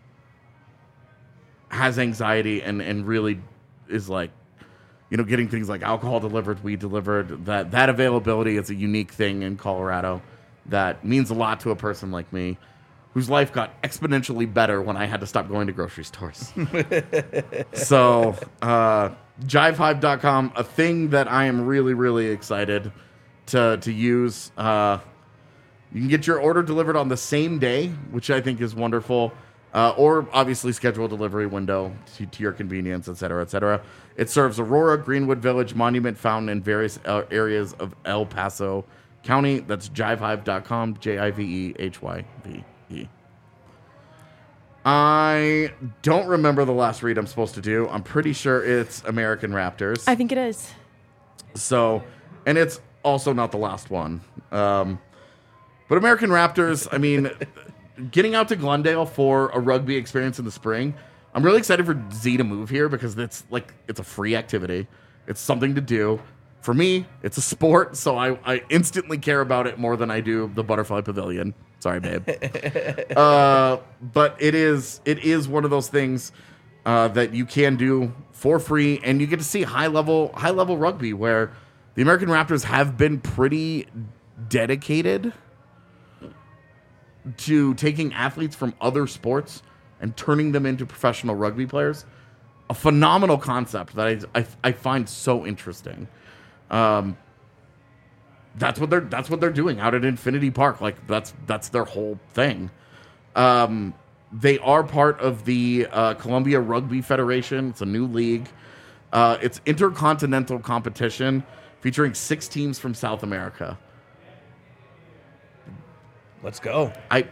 has anxiety and really is like, you know, getting things like alcohol delivered, weed delivered. That availability is a unique thing in Colorado that means a lot to a person like me, whose life got exponentially better when I had to stop going to grocery stores. So, jivehive.com, a thing that I am really, really excited to use. You can get your order delivered on the same day, which I think is wonderful, or obviously schedule a delivery window to your convenience, et cetera, et cetera. It serves Aurora, Greenwood Village, Monument, Fountain, and various areas of El Paso County. That's jivehive.com, JIVEHYVE. I don't remember the last read I'm supposed to do. I'm pretty sure it's American Raptors. I think it is. So, and it's also not the last one. But American Raptors, I mean, getting out to Glendale for a rugby experience in the spring, I'm really excited for Z to move here because it's a free activity. It's something to do. For me, it's a sport, so I instantly care about it more than I do the Butterfly Pavilion. Sorry, babe. But it is one of those things that you can do for free, and you get to see high level rugby where the American Raptors have been pretty dedicated to taking athletes from other sports and turning them into professional rugby players. A phenomenal concept that I find so interesting. That's what they're doing out at Infinity Park. Like that's their whole thing. They are part of the Columbia Rugby Federation. It's a new league. It's intercontinental competition featuring 6 teams from South America. Let's go.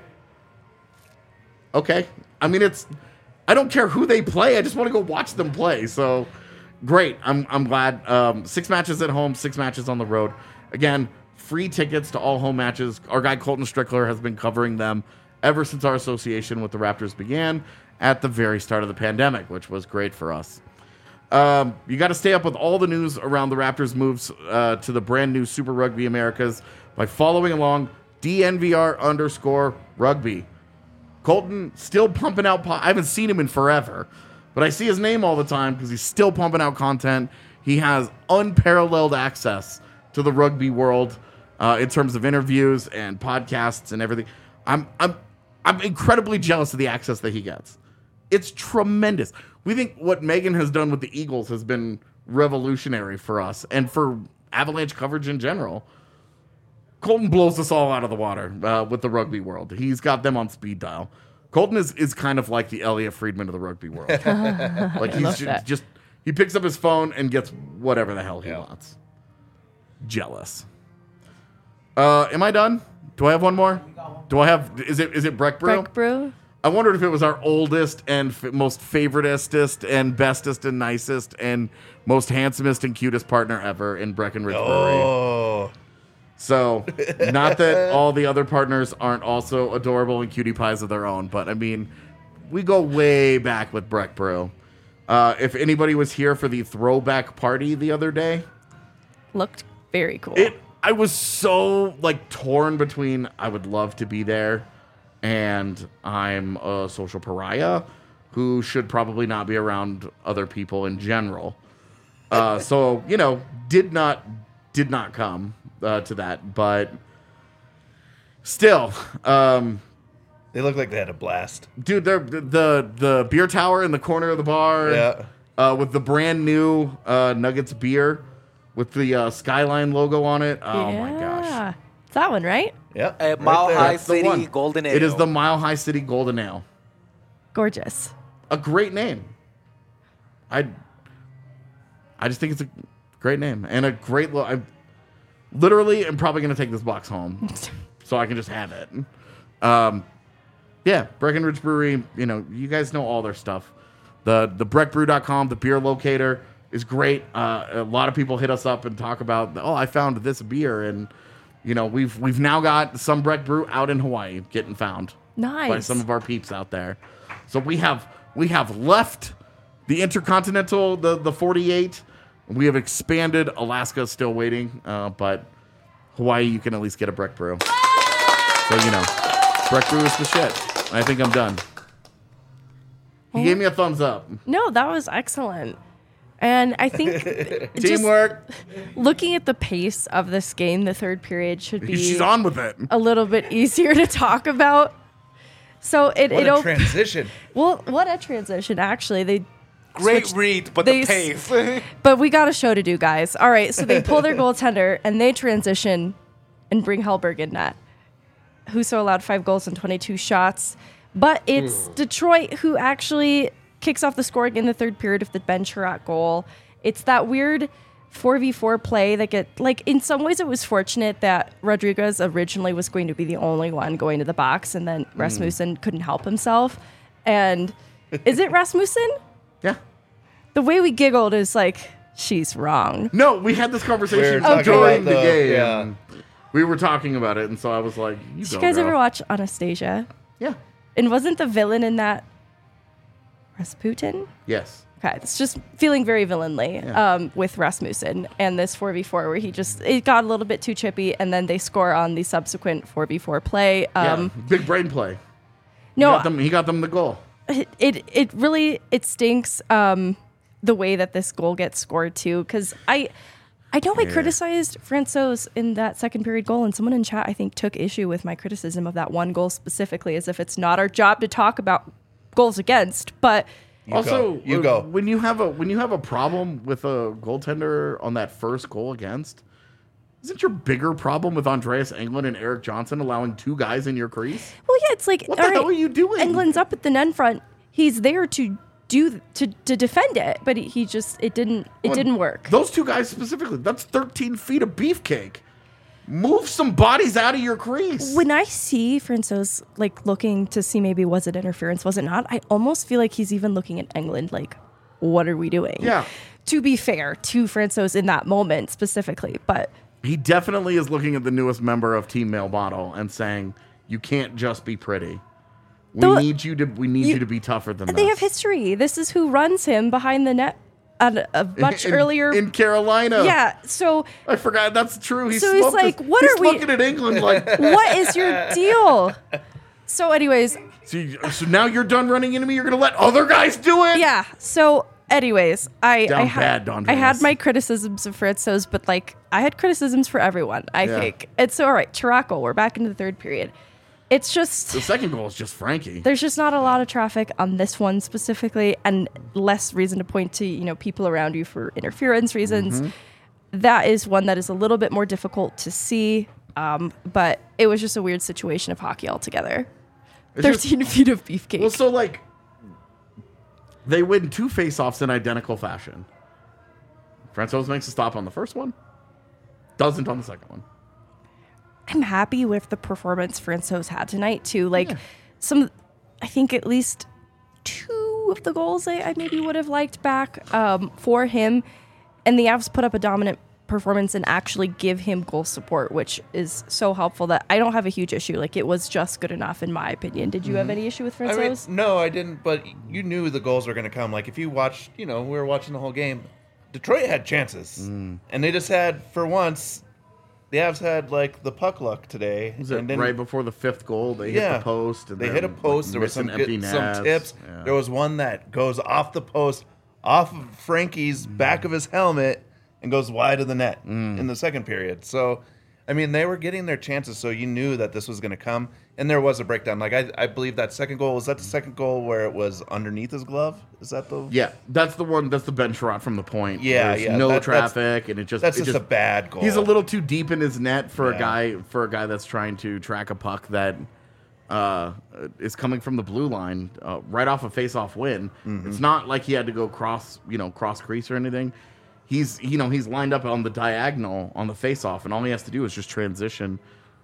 Okay. I mean, I don't care who they play. I just want to go watch them play. So great. I'm glad. 6 matches at home, 6 matches on the road. Again, free tickets to all home matches. Our guy Colton Strickler has been covering them ever since our association with the Raptors began at the very start of the pandemic, which was great for us. You got to stay up with all the news around the Raptors' moves to the brand new Super Rugby Americas by following along DNVR_rugby. Colton still pumping out. I haven't seen him in forever, but I see his name all the time because he's still pumping out content. He has unparalleled access to the rugby world. in terms of interviews and podcasts and everything. I'm incredibly jealous of the access that he gets. It's tremendous. We think what Megan has done with the Eagles has been revolutionary for us and for Avalanche coverage in general. Colton blows us all out of the water with the rugby world. He's got them on speed dial. Colton is kind of like the Elliot Friedman of the rugby world. Like he's just he picks up his phone and gets whatever the hell he wants. Jealous. Am I done? Do I have one more? Do I have? Is it Breck Brew? Breck Brew. I wondered if it was our oldest and most favoritist and bestest and nicest and most handsomest and cutest partner ever in Breckenridge Brewery. So, not that all the other partners aren't also adorable and cutie pies of their own, but I mean, we go way back with Breck Brew. If anybody was here for the throwback party the other day, Looked very cool. I was so torn between I would love to be there and I'm a social pariah who should probably not be around other people in general. So, did not come to that, but still, they look like they had a blast. Dude, they're the beer tower in the corner of the bar, with the brand new Nuggets beer with the Skyline logo on it. Oh my gosh, it's that one, right? Yeah, Mile High City Golden Ale. It is the Mile High City Golden Ale. Gorgeous. A great name. I just think it's a great name and a great look. I literally am probably going to take this box home so I can just have it. Yeah, Breckenridge Brewery, you guys know all their stuff. The breckbrew.com, the beer locator is great. A lot of people hit us up and talk about, I found this beer, and we've now got some Breck Brew out in Hawaii getting found. Nice. By some of our peeps out there. So we have left the Intercontinental, the 48. We have expanded. Alaska is still waiting, but Hawaii, you can at least get a Breck Brew. So, Breck Brew is the shit. I think I'm done. He gave me a thumbs up. No, that was excellent. And I think teamwork. Looking at the pace of this game, the third period should be she's on with it. A little bit easier to talk about. So what a transition. Well, what a transition. Actually, Great read, but the pace. But we got a show to do, guys. All right, so they pull their goaltender and they transition and bring Hellberg in net. Husso allowed 5 goals and 22 shots. But it's Detroit who actually kicks off the scoring in the third period of the Ben Chiarot goal. It's that weird 4v4 play that in some ways it was fortunate that Rodriguez originally was going to be the only one going to the box, and then Rasmussen couldn't help himself. And is it Rasmussen? Yeah. The way we giggled is she's wrong. No, we had this conversation during the game. Yeah. We were talking about it, and so I was like, Did you guys ever watch Anastasia? Yeah. And wasn't the villain in that Rasputin? Yes. Okay, it's just feeling very villainly with Rasmussen and this 4v4 where it got a little bit too chippy, and then they score on the subsequent 4v4 play. Big brain play. No, he got them the goal. It really stinks the way that this goal gets scored too, because I know I criticized Francouz in that second period goal, and someone in chat I think took issue with my criticism of that one goal specifically, as if it's not our job to talk about goals against. But you go. When you have a problem with a goaltender on that first goal against, isn't your bigger problem with Andreas Englund and Eric Johnson allowing 2 guys in your crease? Well, yeah, it's what the hell are you doing? Englund's up at the net front. He's there to defend it, but it didn't work. Those 2 guys specifically, that's 13 feet of beefcake. Move some bodies out of your crease. When I see Francouz looking to see maybe was it interference, was it not, I almost feel like he's even looking at Englund what are we doing? Yeah. To be fair to Francouz in that moment specifically, but he definitely is looking at the newest member of Team Male Model and saying, you can't just be pretty. We need you to be tougher than this. They have history. This is who runs him behind the net at a much earlier in Carolina. Yeah, so I forgot that's true. He's looking at England what is your deal? So anyways, so now you're done running into me. You're gonna let other guys do it? Yeah. So Anyways, I bad, Don I had Davis. my criticisms of Francouz, but like I had criticisms for everyone. I think it's all right. Chiraco, we're back into the third period. It's just The second goal is just Frankie. there's just not a lot of traffic on this one specifically, and less reason to point to people around you for interference reasons. That is one that is a little bit more difficult to see, but it was just a weird situation of hockey altogether. It's just- 13 feet of beefcake. Well, so like they win 2 faceoffs in identical fashion. Francouz makes a stop on the first one, doesn't on the second one. I'm happy with the performance Francouz had tonight too. Like I think at least 2 of the goals I maybe would have liked back for him, and the Avs put up a dominant performance and actually give him goal support, which is so helpful that I don't have a huge issue. Like it was just good enough in my opinion. Did you have any issue with Francouz? No, I didn't. But you knew the goals were going to come. Like if you watched, we were watching the whole game. Detroit had chances, and they just had for once. The Avs had like the puck luck today. Was it and then, right before the 5th goal? They hit the post. And they then, hit a post. like, There was some missing empty some nets. tips. Yeah. There was one that goes off the post, off of Frankie's back of his helmet, and goes wide of the net in the second period. So, I mean, they were getting their chances, so you knew that this was going to come. And there was a breakdown. Like, I believe that second goal, was that the second goal where it was underneath his glove? Is that the... Yeah, that's the one. That's the bench shot from the point. Yeah, There's yeah. no traffic, and it just That's just a bad goal. He's a little too deep in his net for a Yeah. guy that's trying to track a puck that is coming from the blue line right off a face-off win. It's not like he had to go cross crease or anything. He's lined up on the diagonal on the face-off, and all he has to do is just transition,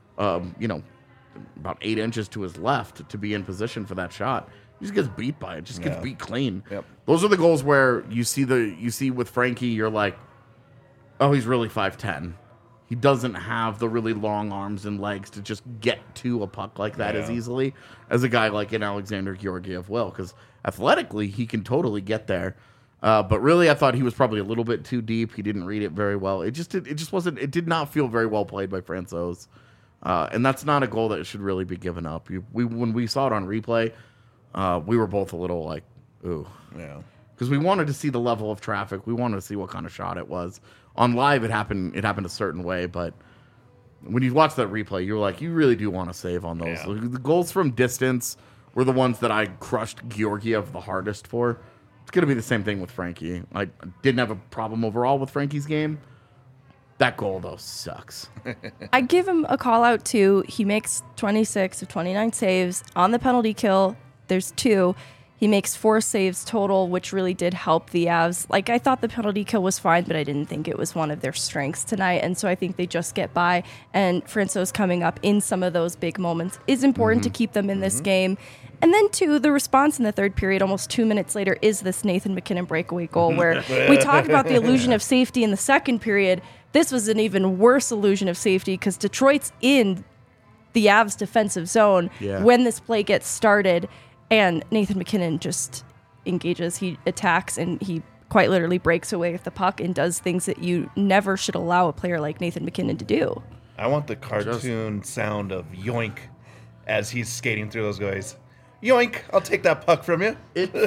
about 8 inches to his left to be in position for that shot. He just gets beat by it. Just gets beat clean. Yep. Those are the goals where you see with Frankie, you're like, oh, he's really 5'10". He doesn't have the really long arms and legs to just get to a puck like that as easily as a guy like an Alexander Georgiev will, because athletically he can totally get there. But really, I thought he was probably a little bit too deep. He didn't read it very well. It just wasn't. It did not feel very well played by Francouz. And that's not a goal that should really be given up. When we saw it on replay, we were both a little like, ooh. Yeah. Because we wanted to see the level of traffic. We wanted to see what kind of shot it was. On live, it happened a certain way, but when you watch that replay, you're like, you really do want to save on those. Yeah. The goals from distance were the ones that I crushed Georgiev the hardest for. It's going to be the same thing with Frankie. I didn't have a problem overall with Frankie's game. That goal, though, sucks. I give him a call out too. He makes 26 of 29 saves on the penalty kill. There's 2. He makes 4 saves total, which really did help the Avs. Like, I thought the penalty kill was fine, but I didn't think it was one of their strengths tonight. And so I think they just get by. And Francouz coming up in some of those big moments is important to keep them in this game. And then, too, the response in the third period, almost 2 minutes later, is this Nathan MacKinnon breakaway goal where we talked about the illusion of safety in the second period. This was an even worse illusion of safety because Detroit's in the Avs defensive zone when this play gets started. And Nathan MacKinnon just engages. He attacks, and he quite literally breaks away with the puck and does things that you never should allow a player like Nathan MacKinnon to do. I want the cartoon sound of yoink as he's skating through those guys. Yoink! I'll take that puck from you.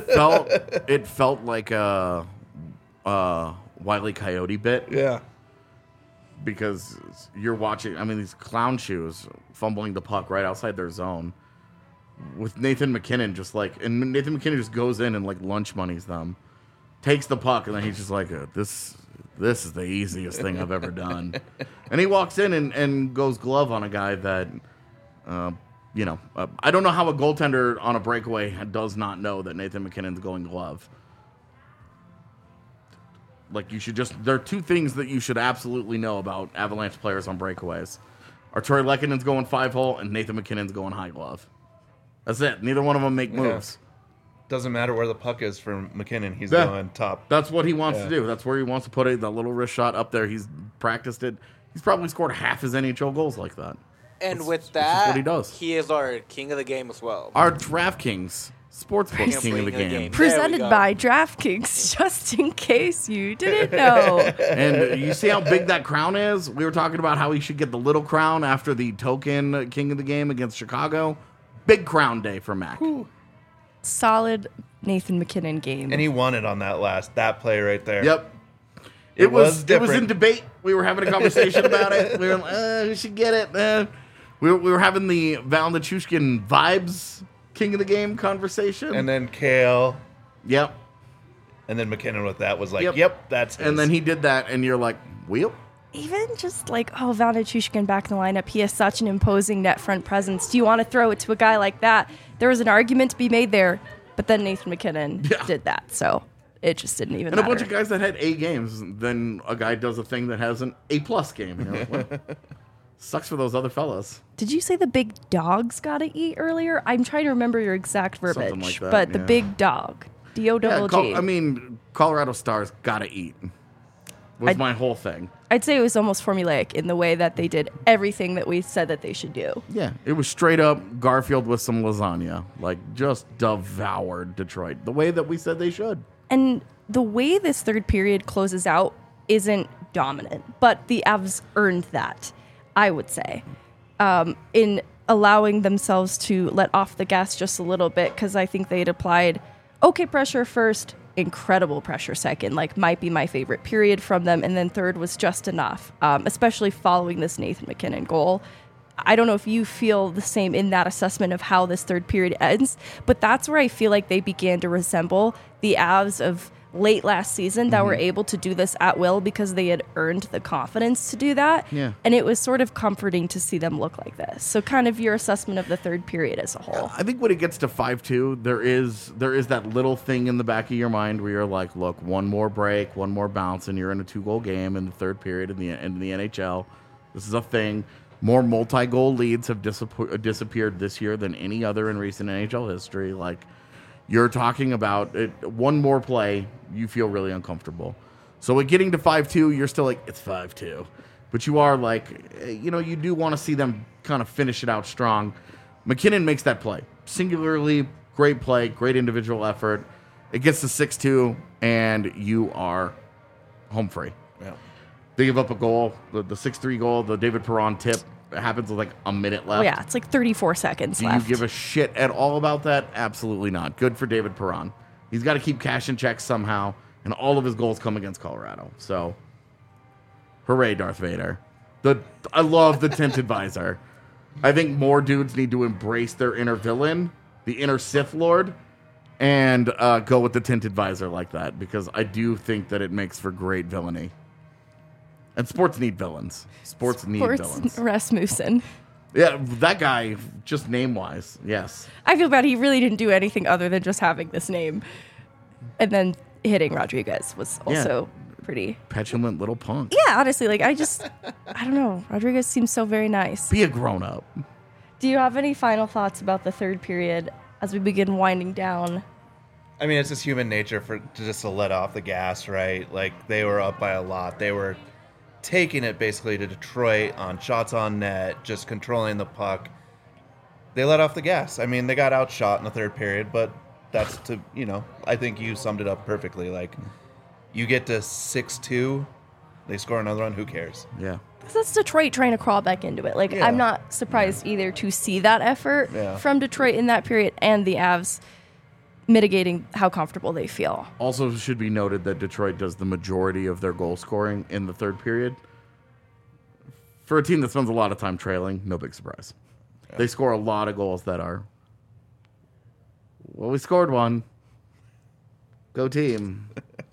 It felt like a Wile E. Coyote bit. Yeah. Because you're watching, these clown shoes fumbling the puck right outside their zone with Nathan MacKinnon and Nathan MacKinnon just goes in and like lunch moneys them, takes the puck, and then he's just like, this is the easiest thing I've ever done. And he walks in and goes glove on a guy that, I don't know how a goaltender on a breakaway does not know that Nathan MacKinnon's going glove. Like, there are 2 things that you should absolutely know about Avalanche players on breakaways. Artturi Lehkonen's going 5-hole, and Nathan MacKinnon's going high glove. That's it. Neither one of them make moves. Doesn't matter where the puck is for MacKinnon. He's going top. That's what he wants to do. That's where he wants to put it. That little wrist shot up there. He's practiced it. He's probably scored half his NHL goals like that. And with that's that, what he does. He is our king of the game as well. Our DraftKings Sportsbook king of the game. Presented by DraftKings, just in case you didn't know. And you see how big that crown is? We were talking about how he should get the little crown after the token king of the game against Chicago. Big crown day for Mac. Solid Nathan McKinnon game. And he won it on that play right there. Yep. It was in debate. We were having a conversation about it. We were like, we should get it. We were having the Val Nichushkin vibes king of the game conversation. And then Kale. Yep. And then McKinnon with that was like, yep that's his. And then he did that, and you're like, wheel? Even just like, Val Nichushkin back in the lineup, he has such an imposing net front presence. Do you want to throw it to a guy like that? There was an argument to be made there, but then Nathan McKinnon did that, so it just didn't even matter. And a bunch of guys that had A games, then a guy does a thing that has an A+ game. You know? Well, sucks for those other fellas. Did you say the big dogs got to eat earlier? I'm trying to remember your exact verbiage, Something like that, but the big dog, D-O-double-G. Colorado Stars got to eat was my whole thing. I'd say it was almost formulaic in the way that they did everything that we said that they should do. Yeah, it was straight up Garfield with some lasagna. Like, just devoured Detroit the way that we said they should. And the way this third period closes out isn't dominant, but the Avs earned that, I would say, in allowing themselves to let off the gas just a little bit, because I think they'd applied okay pressure first, incredible pressure second, like might be my favorite period from them, and then third was just enough, especially following this Nathan McKinnon goal. I don't know if you feel the same in that assessment of how this third period ends, but that's where I feel like they began to resemble the Avs of late last season that were able to do this at will because they had earned the confidence to do that. Yeah. And it was sort of comforting to see them look like this. So kind of your assessment of the third period as a whole. I think when it gets to 5-2, there is that little thing in the back of your mind where you're like, look, one more break, one more bounce, and you're in a 2-goal game in the third period in the NHL. This is a thing. More multi-goal leads have disappeared this year than any other in recent NHL history. Like, you're talking about one more play, you feel really uncomfortable. So with getting to 5-2, you're still like, it's 5-2. But you are like, you do want to see them kind of finish it out strong. McKinnon makes that play. Singularly, great play, great individual effort. It gets to 6-2, and you are home free. Yeah. They give up a goal, the 6-3 goal, the David Perron tip. It happens with like a minute left. Oh, yeah, it's like 34 seconds left. Do you give a shit at all about that? Absolutely not. Good for David Perron. He's got to keep cashing checks somehow, and all of his goals come against Colorado. So, hooray, Darth Vader. I love the tinted visor. I think more dudes need to embrace their inner villain, the inner Sith Lord, and go with the tinted visor like that, because I do think that it makes for great villainy. And sports need villains. Sports need villains. Rasmussen. Yeah, that guy, just name-wise, yes. I feel bad. He really didn't do anything other than just having this name. And then hitting Rodriguez was also pretty... petulant little punk. Yeah, honestly, like, I don't know. Rodriguez seems so very nice. Be a grown-up. Do you have any final thoughts about the third period as we begin winding down? I mean, it's just human nature to let off the gas, right? Like, they were up by a lot. They were taking it basically to Detroit on shots on net, just controlling the puck. They let off the gas. I mean, they got outshot in the third period, but that's I think you summed it up perfectly. Like, you get to 6-2, they score another one, who cares? Yeah. That's Detroit trying to crawl back into it. Like, I'm not surprised either to see that effort from Detroit in that period, and the Avs mitigating how comfortable they feel. Also should be noted that Detroit does the majority of their goal scoring in the third period. For a team that spends a lot of time trailing, no big surprise. Yeah. They score a lot of goals that are, well, we scored one. Go team.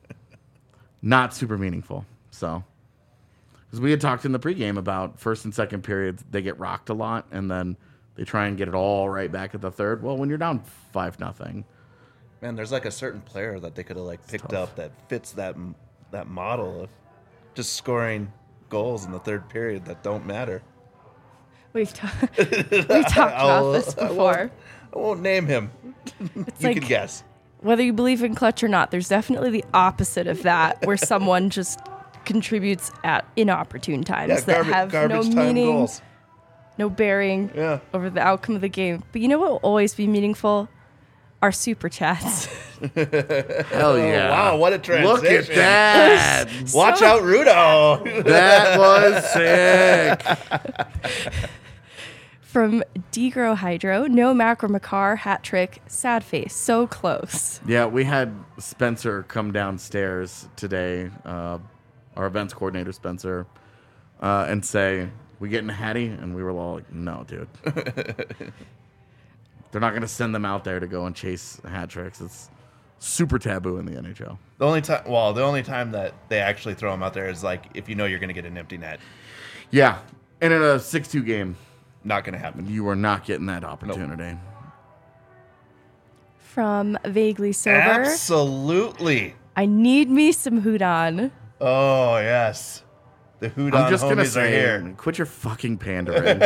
Not super meaningful. So, because we had talked in the pregame about first and second periods, they get rocked a lot, and then they try and get it all right back at the third. Well, when you're down 5-0. Man, there's like a certain player that they could have picked up that fits that model of just scoring goals in the third period that don't matter. We've talked about this before. I won't name him. You can guess. Whether you believe in clutch or not, there's definitely the opposite of that, where someone just contributes at inopportune times that have no meaning, goals. No bearing over the outcome of the game. But you know what will always be meaningful? Our super chats. Hell yeah. Wow, what a transition. Look at that. Watch out, Rudo. That was sick. From Degro Hydro, no Macro Makar, hat trick, sad face, so close. Yeah, we had Spencer come downstairs today, our events coordinator, Spencer, and say, we getting a Hattie? And we were all like, no, dude. They're not going to send them out there to go and chase hat tricks. It's super taboo in the NHL. The only time that they actually throw them out there is like if you know you're going to get an empty net. Yeah, and in a 6-2 game, Not going to happen. you are not getting that opportunity. From Vaguely Sober, Absolutely. I need me some Hudon. Oh, yes. The Houdon I'm just homies going to are say, here. quit your fucking pandering.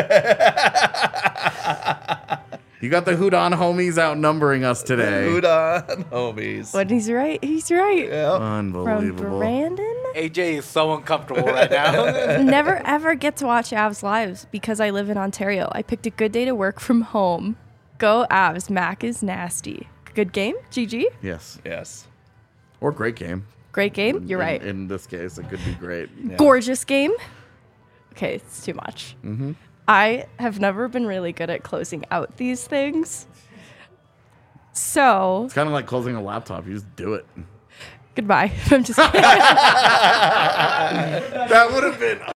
You got the Houdon homies outnumbering us today. Houdon homies. But he's right. He's right. Yep. From Unbelievable. Brandon. AJ is so uncomfortable right now. Never ever get to watch Avs lives because I live in Ontario. I picked a good day to work from home. Go Avs. Mac is nasty. Good game. GG. Yes. Yes. Or great game. Great game. You're right. In this case, it could be great. Yeah. Gorgeous game. Okay, it's too much. Mm-hmm. I have never been really good at closing out these things. So, It's kind of like closing a laptop. You just do it. goodbye. I'm just kidding. That would have been